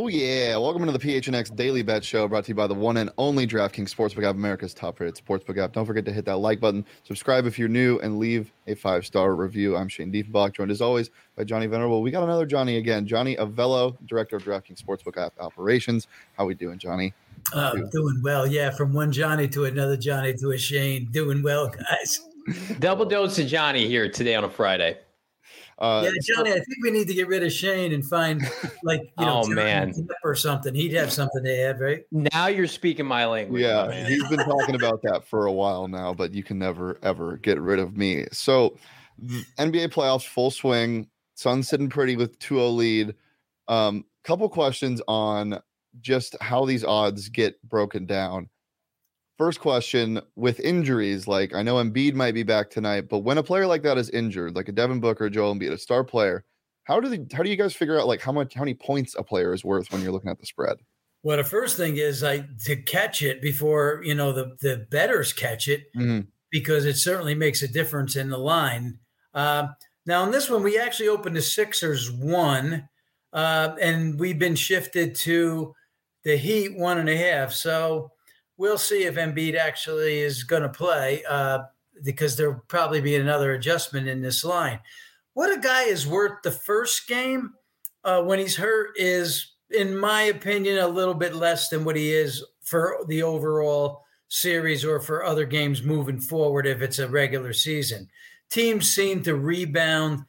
Oh, yeah. Welcome to the PHNX Daily Bet Show, brought to you by the one and only DraftKings Sportsbook app, America's top-rated sportsbook app. Don't forget to hit that like button, subscribe if you're new, and leave a 5-star review. I'm Shane Diefenbach, joined as always by Johnny Venerable. We got another Johnny again. Johnny Avello, Director of DraftKings Sportsbook app Operations. How we doing, Johnny? Doing well. Yeah, from one Johnny to another Johnny to a Shane. Doing well, guys. Double dose of Johnny here today on a Friday. Johnny, I think we need to get rid of Shane and find man, or something. He'd have something to add, right? Now you're speaking my language. Yeah, he's been talking about that for a while now, but you can never, ever get rid of me. So NBA playoffs, full swing. Suns sitting pretty with 2-0 lead. Couple questions on just how these odds get broken down. First question, with injuries, like I know Embiid might be back tonight, but when a player like that is injured, like a Devin Booker, Joel Embiid, a star player, how do you guys figure out like how many points a player is worth when you're looking at the spread? Well, the first thing is to catch it before the bettors catch it, because it certainly makes a difference in the line. Now in this one, we actually opened the Sixers 1, and we've been shifted to the Heat 1.5. So we'll see if Embiid actually is going to play, because there'll probably be another adjustment in this line. What a guy is worth the first game when he's hurt is, in my opinion, a little bit less than what he is for the overall series or for other games moving forward if it's a regular season. Teams seem to rebound,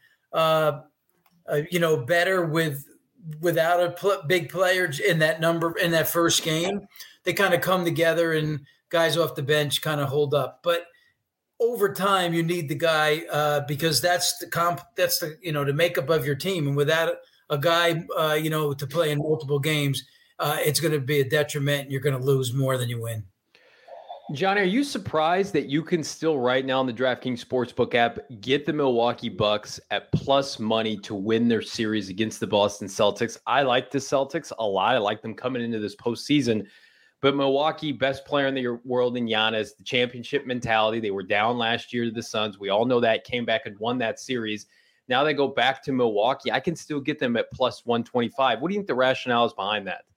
better without a big player in that first game. They kind of come together and guys off the bench kind of hold up. But over time, you need the guy because that's the makeup of your team. And without a guy, to play in multiple games, it's going to be a detriment and you're going to lose more than you win. Johnny, are you surprised that you can still right now in the DraftKings Sportsbook app get the Milwaukee Bucks at plus money to win their series against the Boston Celtics? I like the Celtics a lot. I like them coming into this postseason. But Milwaukee, best player in the world in Giannis, the championship mentality. They were down last year to the Suns. We all know that. Came back and won that series. Now they go back to Milwaukee. I can still get them at plus 125. What do you think the rationale is behind that?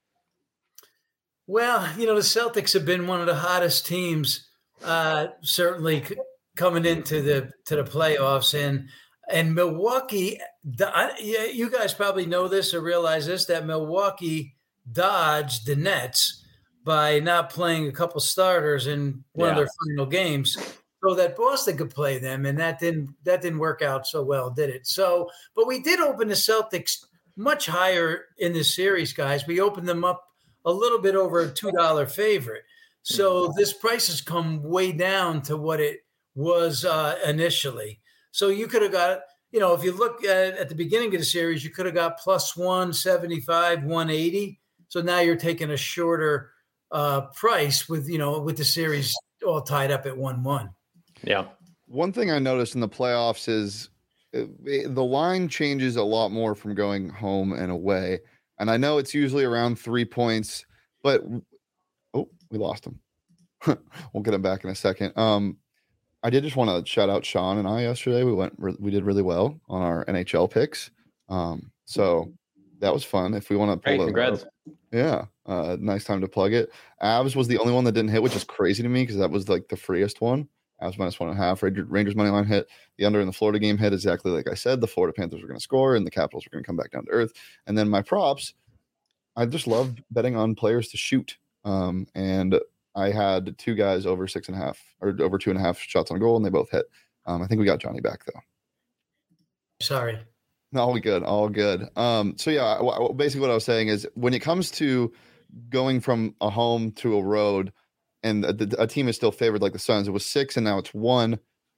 Well, the Celtics have been one of the hottest teams, certainly coming into the playoffs, and Milwaukee. You guys probably know this or realize this, that Milwaukee dodged the Nets by not playing a couple starters in one of their final games, so that Boston could play them, and that didn't work out so well, did it? So, but we did open the Celtics much higher in this series, guys. We opened them up a little bit over a $2 favorite. So this price has come way down to what it was initially. So you could have got, if you look at the beginning of the series, you could have got plus 175, 180. So now you're taking a shorter price with the series all tied up at 1-1. Yeah. One thing I noticed in the playoffs is the line changes a lot more from going home and away. And I know it's usually around 3 points, but we lost him. We'll get him back in a second. I did just want to shout out Sean and I yesterday. We did really well on our NHL picks. So that was fun. If we want to pull congrats. Yeah. Nice time to plug it. Avs was the only one that didn't hit, which is crazy to me because that was like the freest one. Avs minus 1.5. Rangers money line hit. The under in the Florida game hit exactly like I said. The Florida Panthers were going to score and the Capitals were going to come back down to earth. And then my props, I just love betting on players to shoot. And I had two guys over 6.5 or over 2.5 shots on goal, and they both hit. I think we got Johnny back though. Sorry. No, all good. All good. So yeah, basically what I was saying is when it comes to going from a home to a road, and a team is still favored like the Suns, it was 6 and now it's 1.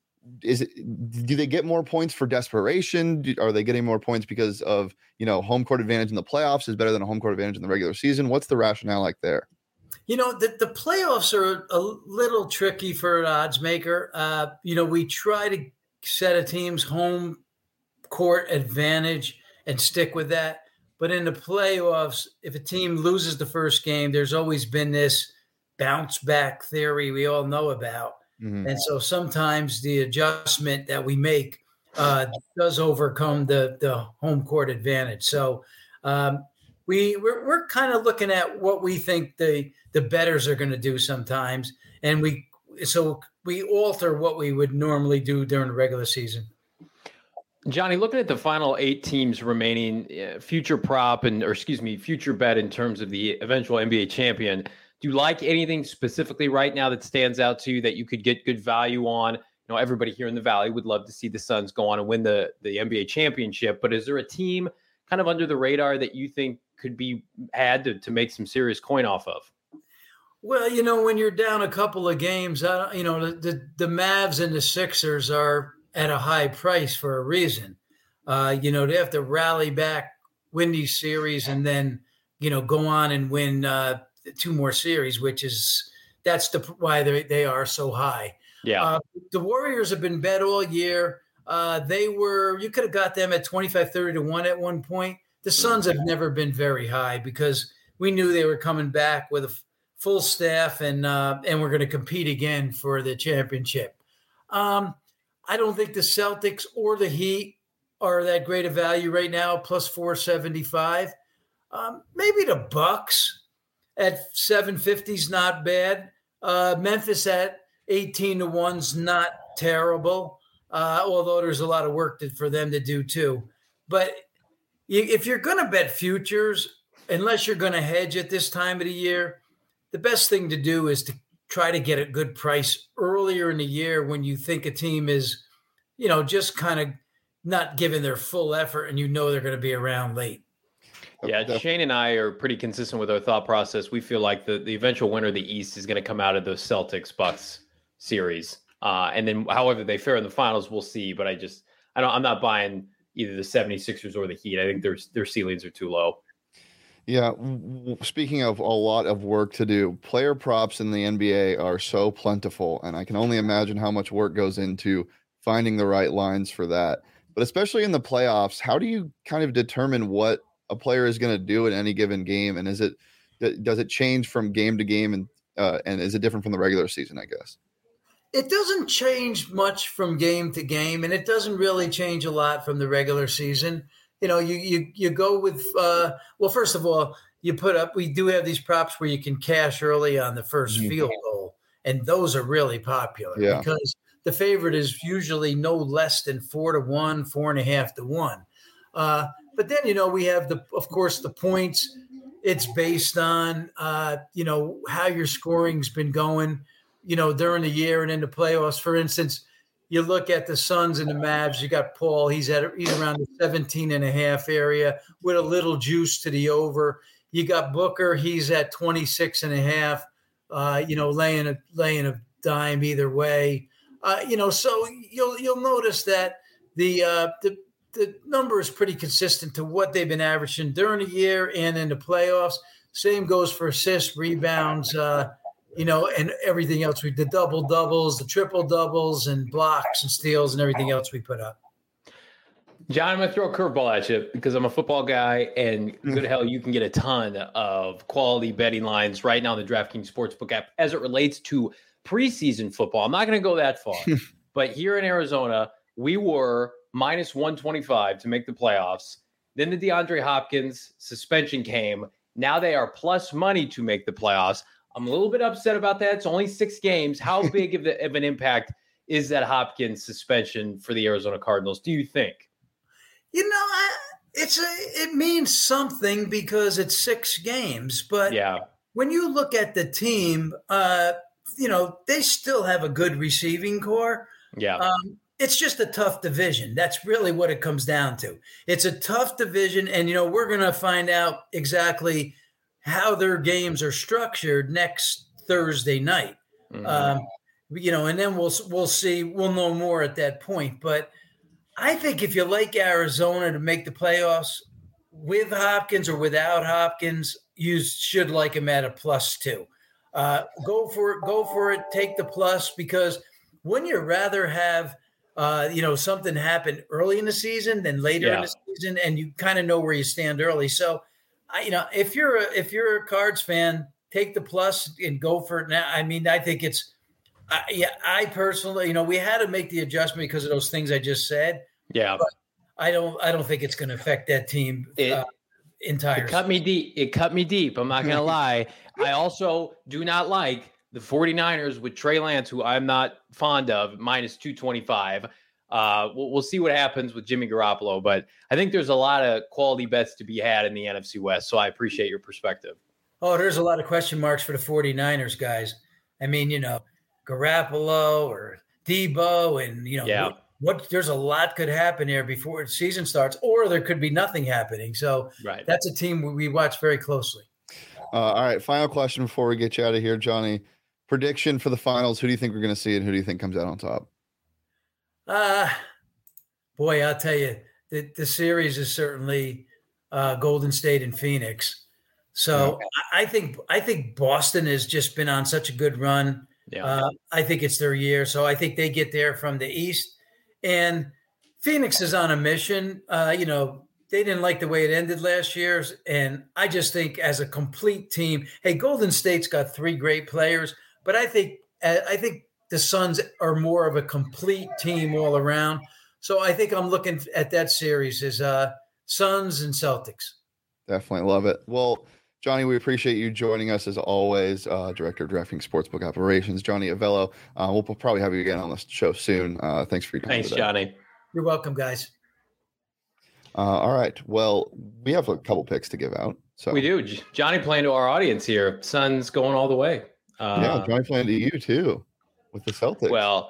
Do they get more points for desperation? Are they getting more points because of, home court advantage in the playoffs is better than a home court advantage in the regular season? What's the rationale like there? The playoffs are a little tricky for an odds maker. We try to set a team's home court advantage and stick with that. But in the playoffs, if a team loses the first game, there's always been this bounce back theory we all know about. Mm-hmm. And so sometimes the adjustment that we make does overcome the home court advantage. So, we're kind of looking at what we think the bettors are going to do sometimes, and we alter what we would normally do during the regular season. Johnny, looking at the final 8 teams remaining, future bet in terms of the eventual NBA champion, do you like anything specifically right now that stands out to you that you could get good value on? Everybody here in the Valley would love to see the Suns go on and win the NBA championship, but is there a team kind of under the radar that you think could be had to make some serious coin off of? Well, when you're down a couple of games, the Mavs and the Sixers are at a high price for a reason. They have to rally back, win these series, and then, go on and win 2 more series, that's why they are so high. Yeah. The Warriors have been bet all year. You could have got them at 25-30 to 1 at one point. The Suns have never been very high because we knew they were coming back with a full staff and we're going to compete again for the championship. I don't think the Celtics or the Heat are that great a value right now, plus 475. Maybe the Bucks at 750 is not bad. Memphis at 18 to 1's not terrible, although there's a lot of work for them to do too. But if you're going to bet futures, unless you're going to hedge at this time of the year, the best thing to do is to try to get a good price earlier in the year when you think a team is, just kind of not giving their full effort and they're going to be around late. Yeah, Shane and I are pretty consistent with our thought process. We feel like the eventual winner of the East is going to come out of the Celtics-Bucks series. And then however they fare in the finals, we'll see. But I'm not buying either the 76ers or the Heat. I think their ceilings are too low. Yeah. Speaking of a lot of work to do, player props in the NBA are so plentiful, and I can only imagine how much work goes into finding the right lines for that. But especially in the playoffs, how do you kind of determine what a player is going to do in any given game? And does it change from game to game, and is it different from the regular season, I guess? It doesn't change much from game to game, and it doesn't really change a lot from the regular season. You go with first of all, we do have these props where you can cash early on the first field goal, and those are really popular because the favorite is usually no less than 4 to 1, 4.5 to 1. But then, we have of course the points. It's based on, how your scoring's been going, during the year and in the playoffs. For instance, you look at the Suns and the Mavs, you got Paul, he's around the 17.5 area with a little juice to the over. You got Booker, he's at 26.5, laying a dime either way. So you'll notice that the number is pretty consistent to what they've been averaging during the year and in the playoffs. Same goes for assists, rebounds, and everything else. The double doubles, the triple doubles, and blocks and steals and everything else we put up. John, I'm going to throw a curveball at you because I'm a football guy, and good hell, you can get a ton of quality betting lines right now in the DraftKings Sportsbook app as it relates to preseason football. I'm not going to go that far, but here in Arizona, we were minus 125 to make the playoffs. Then the DeAndre Hopkins suspension came. Now they are plus money to make the playoffs. I'm a little bit upset about that. It's only 6 games. How big of an impact is that Hopkins suspension for the Arizona Cardinals, do you think? It means something because it's 6 games. But when you look at the team, they still have a good receiving core. Yeah. It's just a tough division. That's really what it comes down to. It's a tough division, and we're going to find out exactly how their games are structured next Thursday night. And then we'll see. We'll know more at that point. But I think if you like Arizona to make the playoffs with Hopkins or without Hopkins, you should like him at a +2. Go for it. Take the plus, because wouldn't you rather have something happen early in the season than later in the season, and you kind of know where you stand early. So, if you're a Cards fan, take the plus and go for it now. I mean, I think it's. I personally, we had to make the adjustment because of those things I just said. Yeah, but I don't think it's going to affect that team entire. It cut me deep. It cut me deep. I'm not going to lie. I also do not like the 49ers with Trey Lance, who I'm not fond of, minus 225. We'll see what happens with Jimmy Garoppolo, but I think there's a lot of quality bets to be had in the NFC West, so I appreciate your perspective. Oh, there's a lot of question marks for the 49ers, guys. I mean, Garoppolo or Debo and, what there's a lot could happen here before the season starts, or there could be nothing happening. So That's a team we watch very closely. All right, final question before we get you out of here, Johnny. Prediction for the finals. Who do you think we're going to see and who do you think comes out on top? Boy, I'll tell you, the series is certainly Golden State and Phoenix. So I think Boston has just been on such a good run. Yeah. I think it's their year. So I think they get there from the East. And Phoenix is on a mission. They didn't like the way it ended last year. And I just think as a complete team, hey, Golden State's got 3 great players, but I think the Suns are more of a complete team all around. So I think I'm looking at that series as Suns and Celtics. Definitely love it. Well, Johnny, we appreciate you joining us as always, Director of DraftKings Sportsbook Operations, Johnny Avello. We'll probably have you again on the show soon. Thanks for your time. Thanks, today. Johnny. You're welcome, guys. All right. Well, we have a couple picks to give out. So we do. Johnny playing to our audience here. Suns going all the way. Johnny playing to you too with the Celtics. Well,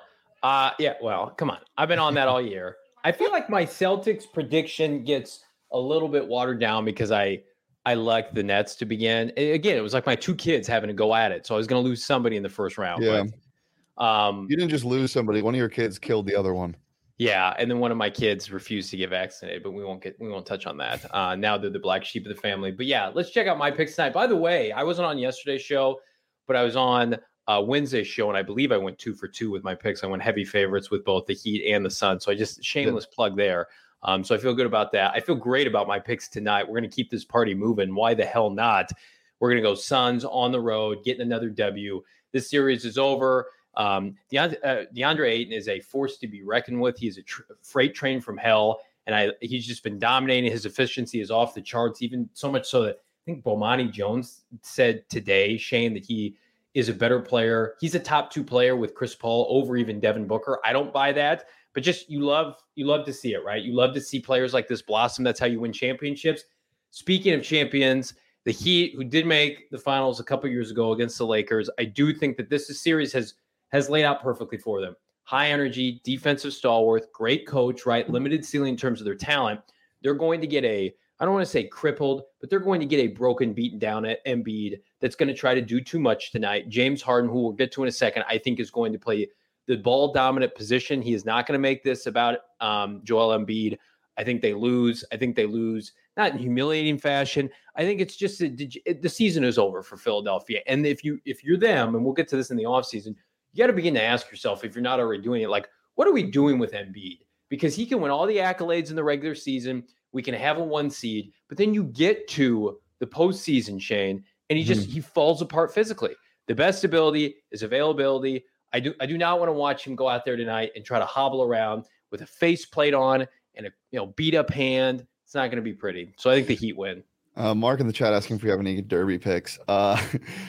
come on. I've been on that all year. I feel like my Celtics prediction gets a little bit watered down because I like the Nets to begin. Again, it was like my 2 kids having to go at it. So I was going to lose somebody in the first round. Yeah. But, you didn't just lose somebody. One of your kids killed the other one. Yeah. And then one of my kids refused to get vaccinated, but we won't touch on that. Now they're the black sheep of the family. But yeah, let's check out my picks tonight. By the way, I wasn't on yesterday's show, but I was on Wednesday's show, and I believe I went 2 for 2 with my picks. I went heavy favorites with both the Heat and the Suns. So I just shameless plug there. So I feel good about that. I feel great about my picks tonight. We're going to keep this party moving. Why the hell not? We're going to go Suns on the road, getting another W. This series is over. DeAndre Ayton is a force to be reckoned with. He is a freight train from hell, and he's just been dominating. His efficiency is off the charts, even so much so that I think Bomani Jones said today, Shane, that he is a better player. He's a top 2 player with Chris Paul over even Devin Booker. I don't buy that. But just you love to see it, right? You love to see players like this blossom. That's how you win championships. Speaking of champions, the Heat, who did make the finals a couple years ago against the Lakers, I do think that this series has laid out perfectly for them. High energy, defensive stalwart, great coach, right? Limited ceiling in terms of their talent. They're going to get I don't want to say crippled, but they're going to get a broken, beaten down at Embiid that's going to try to do too much tonight. James Harden, who we'll get to in a second, I think is going to play the ball dominant position. He is not going to make this about Joel Embiid. I think they lose. Not in humiliating fashion. I think it's just the season is over for Philadelphia. And if you're them, and we'll get to this in the offseason, you got to begin to ask yourself, if you're not already doing it, like, what are we doing with Embiid? Because he can win all the accolades in the regular season. We can have a 1 seed, but then you get to the postseason, Shane, and he falls apart physically. The best ability is availability. I do not want to watch him go out there tonight and try to hobble around with a face plate on and a beat up hand. It's not going to be pretty. So I think the Heat win. Mark in the chat asking if you have any Derby picks. I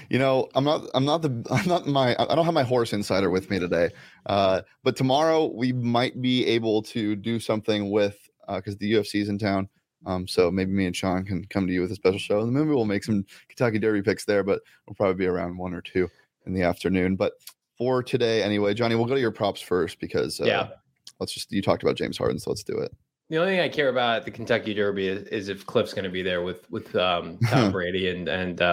don't have my horse insider with me today. But tomorrow we might be able to do something with because the UFC is in town. So maybe me and Sean can come to you with a special show, and maybe we'll make some Kentucky Derby picks there. But we'll probably be around 1 or 2 in the afternoon. But for today, anyway, Johnny, we'll go to your props first because you talked about James Harden, so let's do it. The only thing I care about at the Kentucky Derby is if Cliff's going to be there with Tom Brady and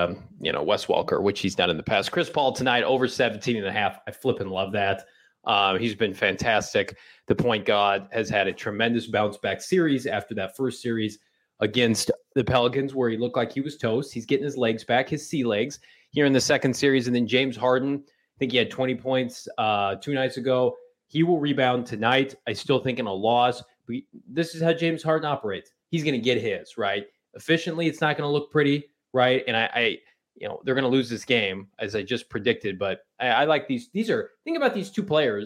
Wes Welker, which he's done in the past. Chris Paul tonight over 17.5. I flipping love that. He's been fantastic. The point guard has had a tremendous bounce back series after that first series against the Pelicans where he looked like he was toast. He's getting his legs back, his sea legs here in the second series. And then James Harden, I think he had 20 points 2 nights ago. He will rebound tonight. I still think in a loss. But this is how James Harden operates. He's going to get his, right? Efficiently, it's not going to look pretty, right? And they're going to lose this game, as I just predicted. But I like these. Think about these 2 players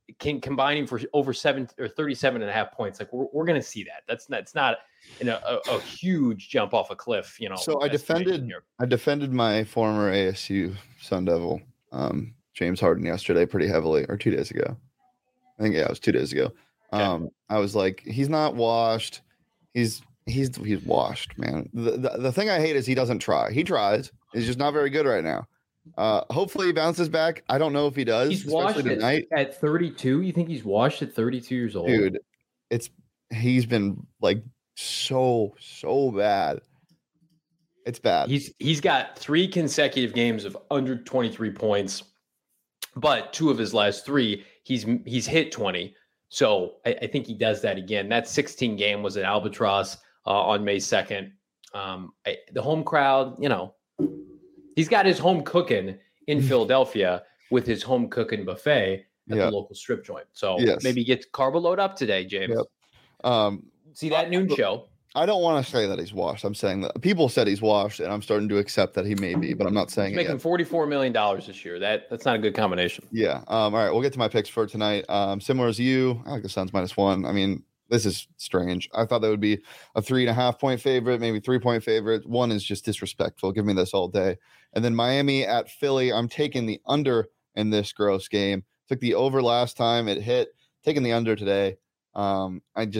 combining for over 37.5 points. Like we're going to see that. That's not a huge jump off a cliff. So I defended my former ASU Sun Devil, James Harden, yesterday pretty heavily, or 2 days ago. I think it was 2 days ago. Okay. I was like, he's not washed. He's washed, man. The thing I hate is he doesn't try. He tries. He's just not very good right now. Hopefully he bounces back. I don't know if he does. He's washed at 32. You think he's washed at 32 years old? Dude, he's been like so bad. It's bad. He's got 3 consecutive games of under 23 points, but 2 of his last 3, he's hit 20. So I think he does that again. That 16 game was at Albatross on May 2nd. The home crowd, he's got his home cooking in Philadelphia with his home cooking buffet at the local strip joint. So maybe get carbo load up today, James. Yep. See that noon show. I don't want to say that he's washed. I'm saying that people said he's washed, and I'm starting to accept that he may be, but I'm not saying he's making $44 million this year. That's not a good combination. Yeah. All right. We'll get to my picks for tonight. Similar as you, I like the Suns -1. I mean, this is strange. I thought that would be a 3.5 point favorite, maybe 3 point favorite. 1 is just disrespectful. Give me this all day. And then Miami at Philly. I'm taking the under in this gross game. Took the over last time it hit. Taking the under today. Even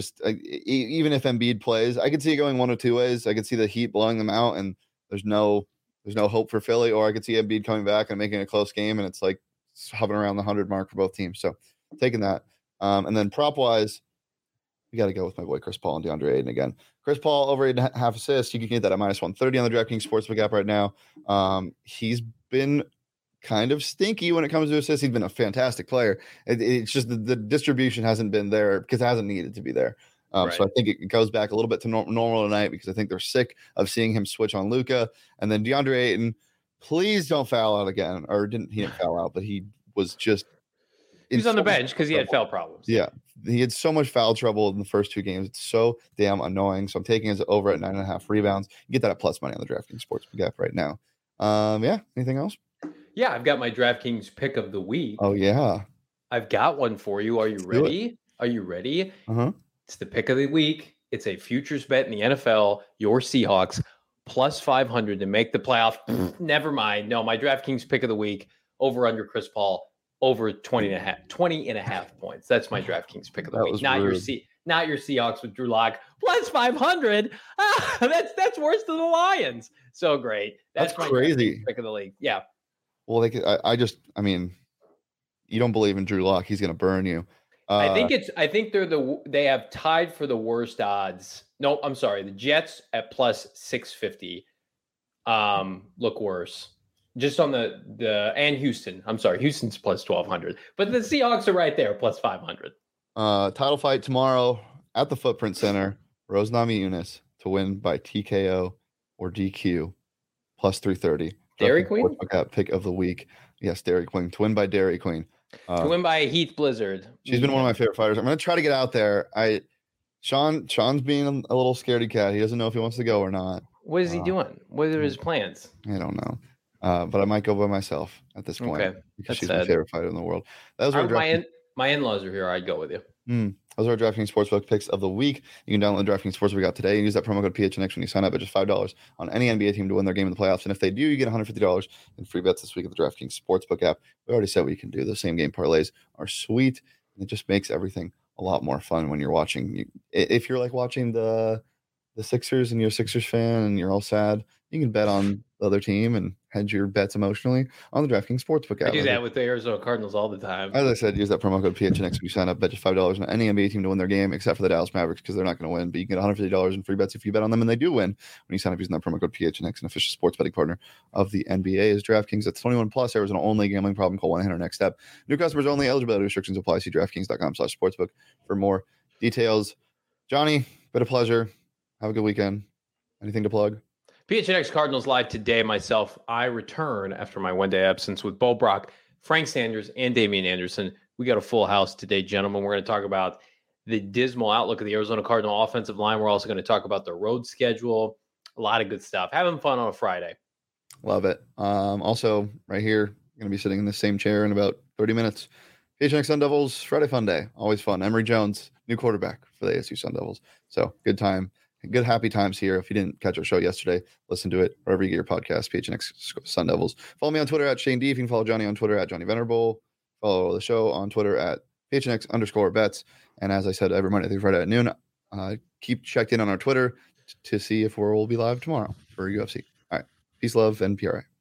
if Embiid plays, I could see it going one of 2 ways. I could see the Heat blowing them out, and there's no hope for Philly, or I could see Embiid coming back and making a close game, and it's like hovering around the 100 mark for both teams. So taking that. And then prop wise, we got to go with my boy Chris Paul and DeAndre Ayton again. Chris Paul over 8.5 assists. You can get that at -130 on the DraftKings Sportsbook app right now. He's been kind of stinky when it comes to assists. He's been a fantastic player. It's just the distribution hasn't been there because it hasn't needed to be there. Right. So I think it goes back a little bit to normal tonight because I think they're sick of seeing him switch on Luka. And then DeAndre Ayton, please don't foul out again. He didn't foul out, but he was just. He was on the bench because he had foul problems. Yeah. He had so much foul trouble in the first 2 games. It's so damn annoying. So I'm taking his over at 9.5 rebounds. You get that at plus money on the DraftKings Sportsbook app right now. Anything else? Yeah, I've got my DraftKings pick of the week. Oh, yeah. I've got one for you. Are you ready? Are you ready? Uh-huh. It's the pick of the week. It's a futures bet in the NFL. Your Seahawks plus 500 to make the playoff. Never mind. No, my DraftKings pick of the week, over under Chris Paul, over 20 and a half points. That's my DraftKings pick of the week. Not your Seahawks with Drew Lock plus 500. That's worse than the Lions. So great. That's my crazy pick of the league. Yeah. Well, I mean, you don't believe in Drew Lock. He's going to burn you. I think they have tied for the worst odds. No, I'm sorry. The Jets at plus 650 look worse. Just on and Houston. I'm sorry. Houston's plus 1,200. But the Seahawks are right there, plus 500. Title fight tomorrow at the Footprint Center. Rose Namajunas to win by TKO or DQ, plus 330. Dairy Queen? Pick of the week. Yes, Dairy Queen. To win by Dairy Queen. To win by Heath Blizzard. She's been one of my favorite fighters. I'm going to try to get out there. Sean's being a little scaredy cat. He doesn't know if he wants to go or not. What is he doing? What are his plans? I don't know. But I might go by myself at this point. Okay. Because she's my favorite fighter in the world. My in-laws are here. I'd go with you. Those are our DraftKings Sportsbook picks of the week. You can download the DraftKings Sportsbook app today and use that promo code PHNX when you sign up at just $5 on any NBA team to win their game in the playoffs. And if they do, you get $150 in free bets this week at the DraftKings Sportsbook app. We already said what you can do. The same game parlays are sweet, and it just makes everything a lot more fun when you're watching. If you're like watching the Sixers and you're a Sixers fan and you're all sad, you can bet on the other team and hedge your bets emotionally on the DraftKings Sportsbook app. I do that with the Arizona Cardinals all the time. As I said, use that promo code PHNX when you sign up. Bet just $5 on any NBA team to win their game, except for the Dallas Mavericks, because they're not going to win. But you can get $150 in free bets if you bet on them, and they do win when you sign up using that promo code PHNX. An official sports betting partner of the NBA is DraftKings. That's 21 plus. Arizona only. Gambling problem? Call 1-800-NEXT STEP. New customers only. Eligibility restrictions apply. See DraftKings.com/sportsbook for more details. Johnny, been a pleasure. Have a good weekend. Anything to plug? PHNX Cardinals live today. Myself, I return after my one-day absence with Bo Brock, Frank Sanders, and Damian Anderson. We got a full house today, gentlemen. We're going to talk about the dismal outlook of the Arizona Cardinal offensive line. We're also going to talk about the road schedule. A lot of good stuff. Having fun on a Friday. Love it. Also, right here, going to be sitting in the same chair in about 30 minutes. PHNX Sun Devils, Friday Fun Day. Always fun. Emory Jones, new quarterback for the ASU Sun Devils. So good time. Good happy times here. If you didn't catch our show yesterday, listen to it wherever you get your podcast, PHNX Sun Devils. Follow me on Twitter at Shane D. If you can follow Johnny on Twitter at Johnny Venerable. Follow the show on Twitter at PHNX_bets. And as I said, every Monday through Friday at noon, keep checked in on our Twitter to see if we'll be live tomorrow for UFC. All right. Peace, love, and PRA.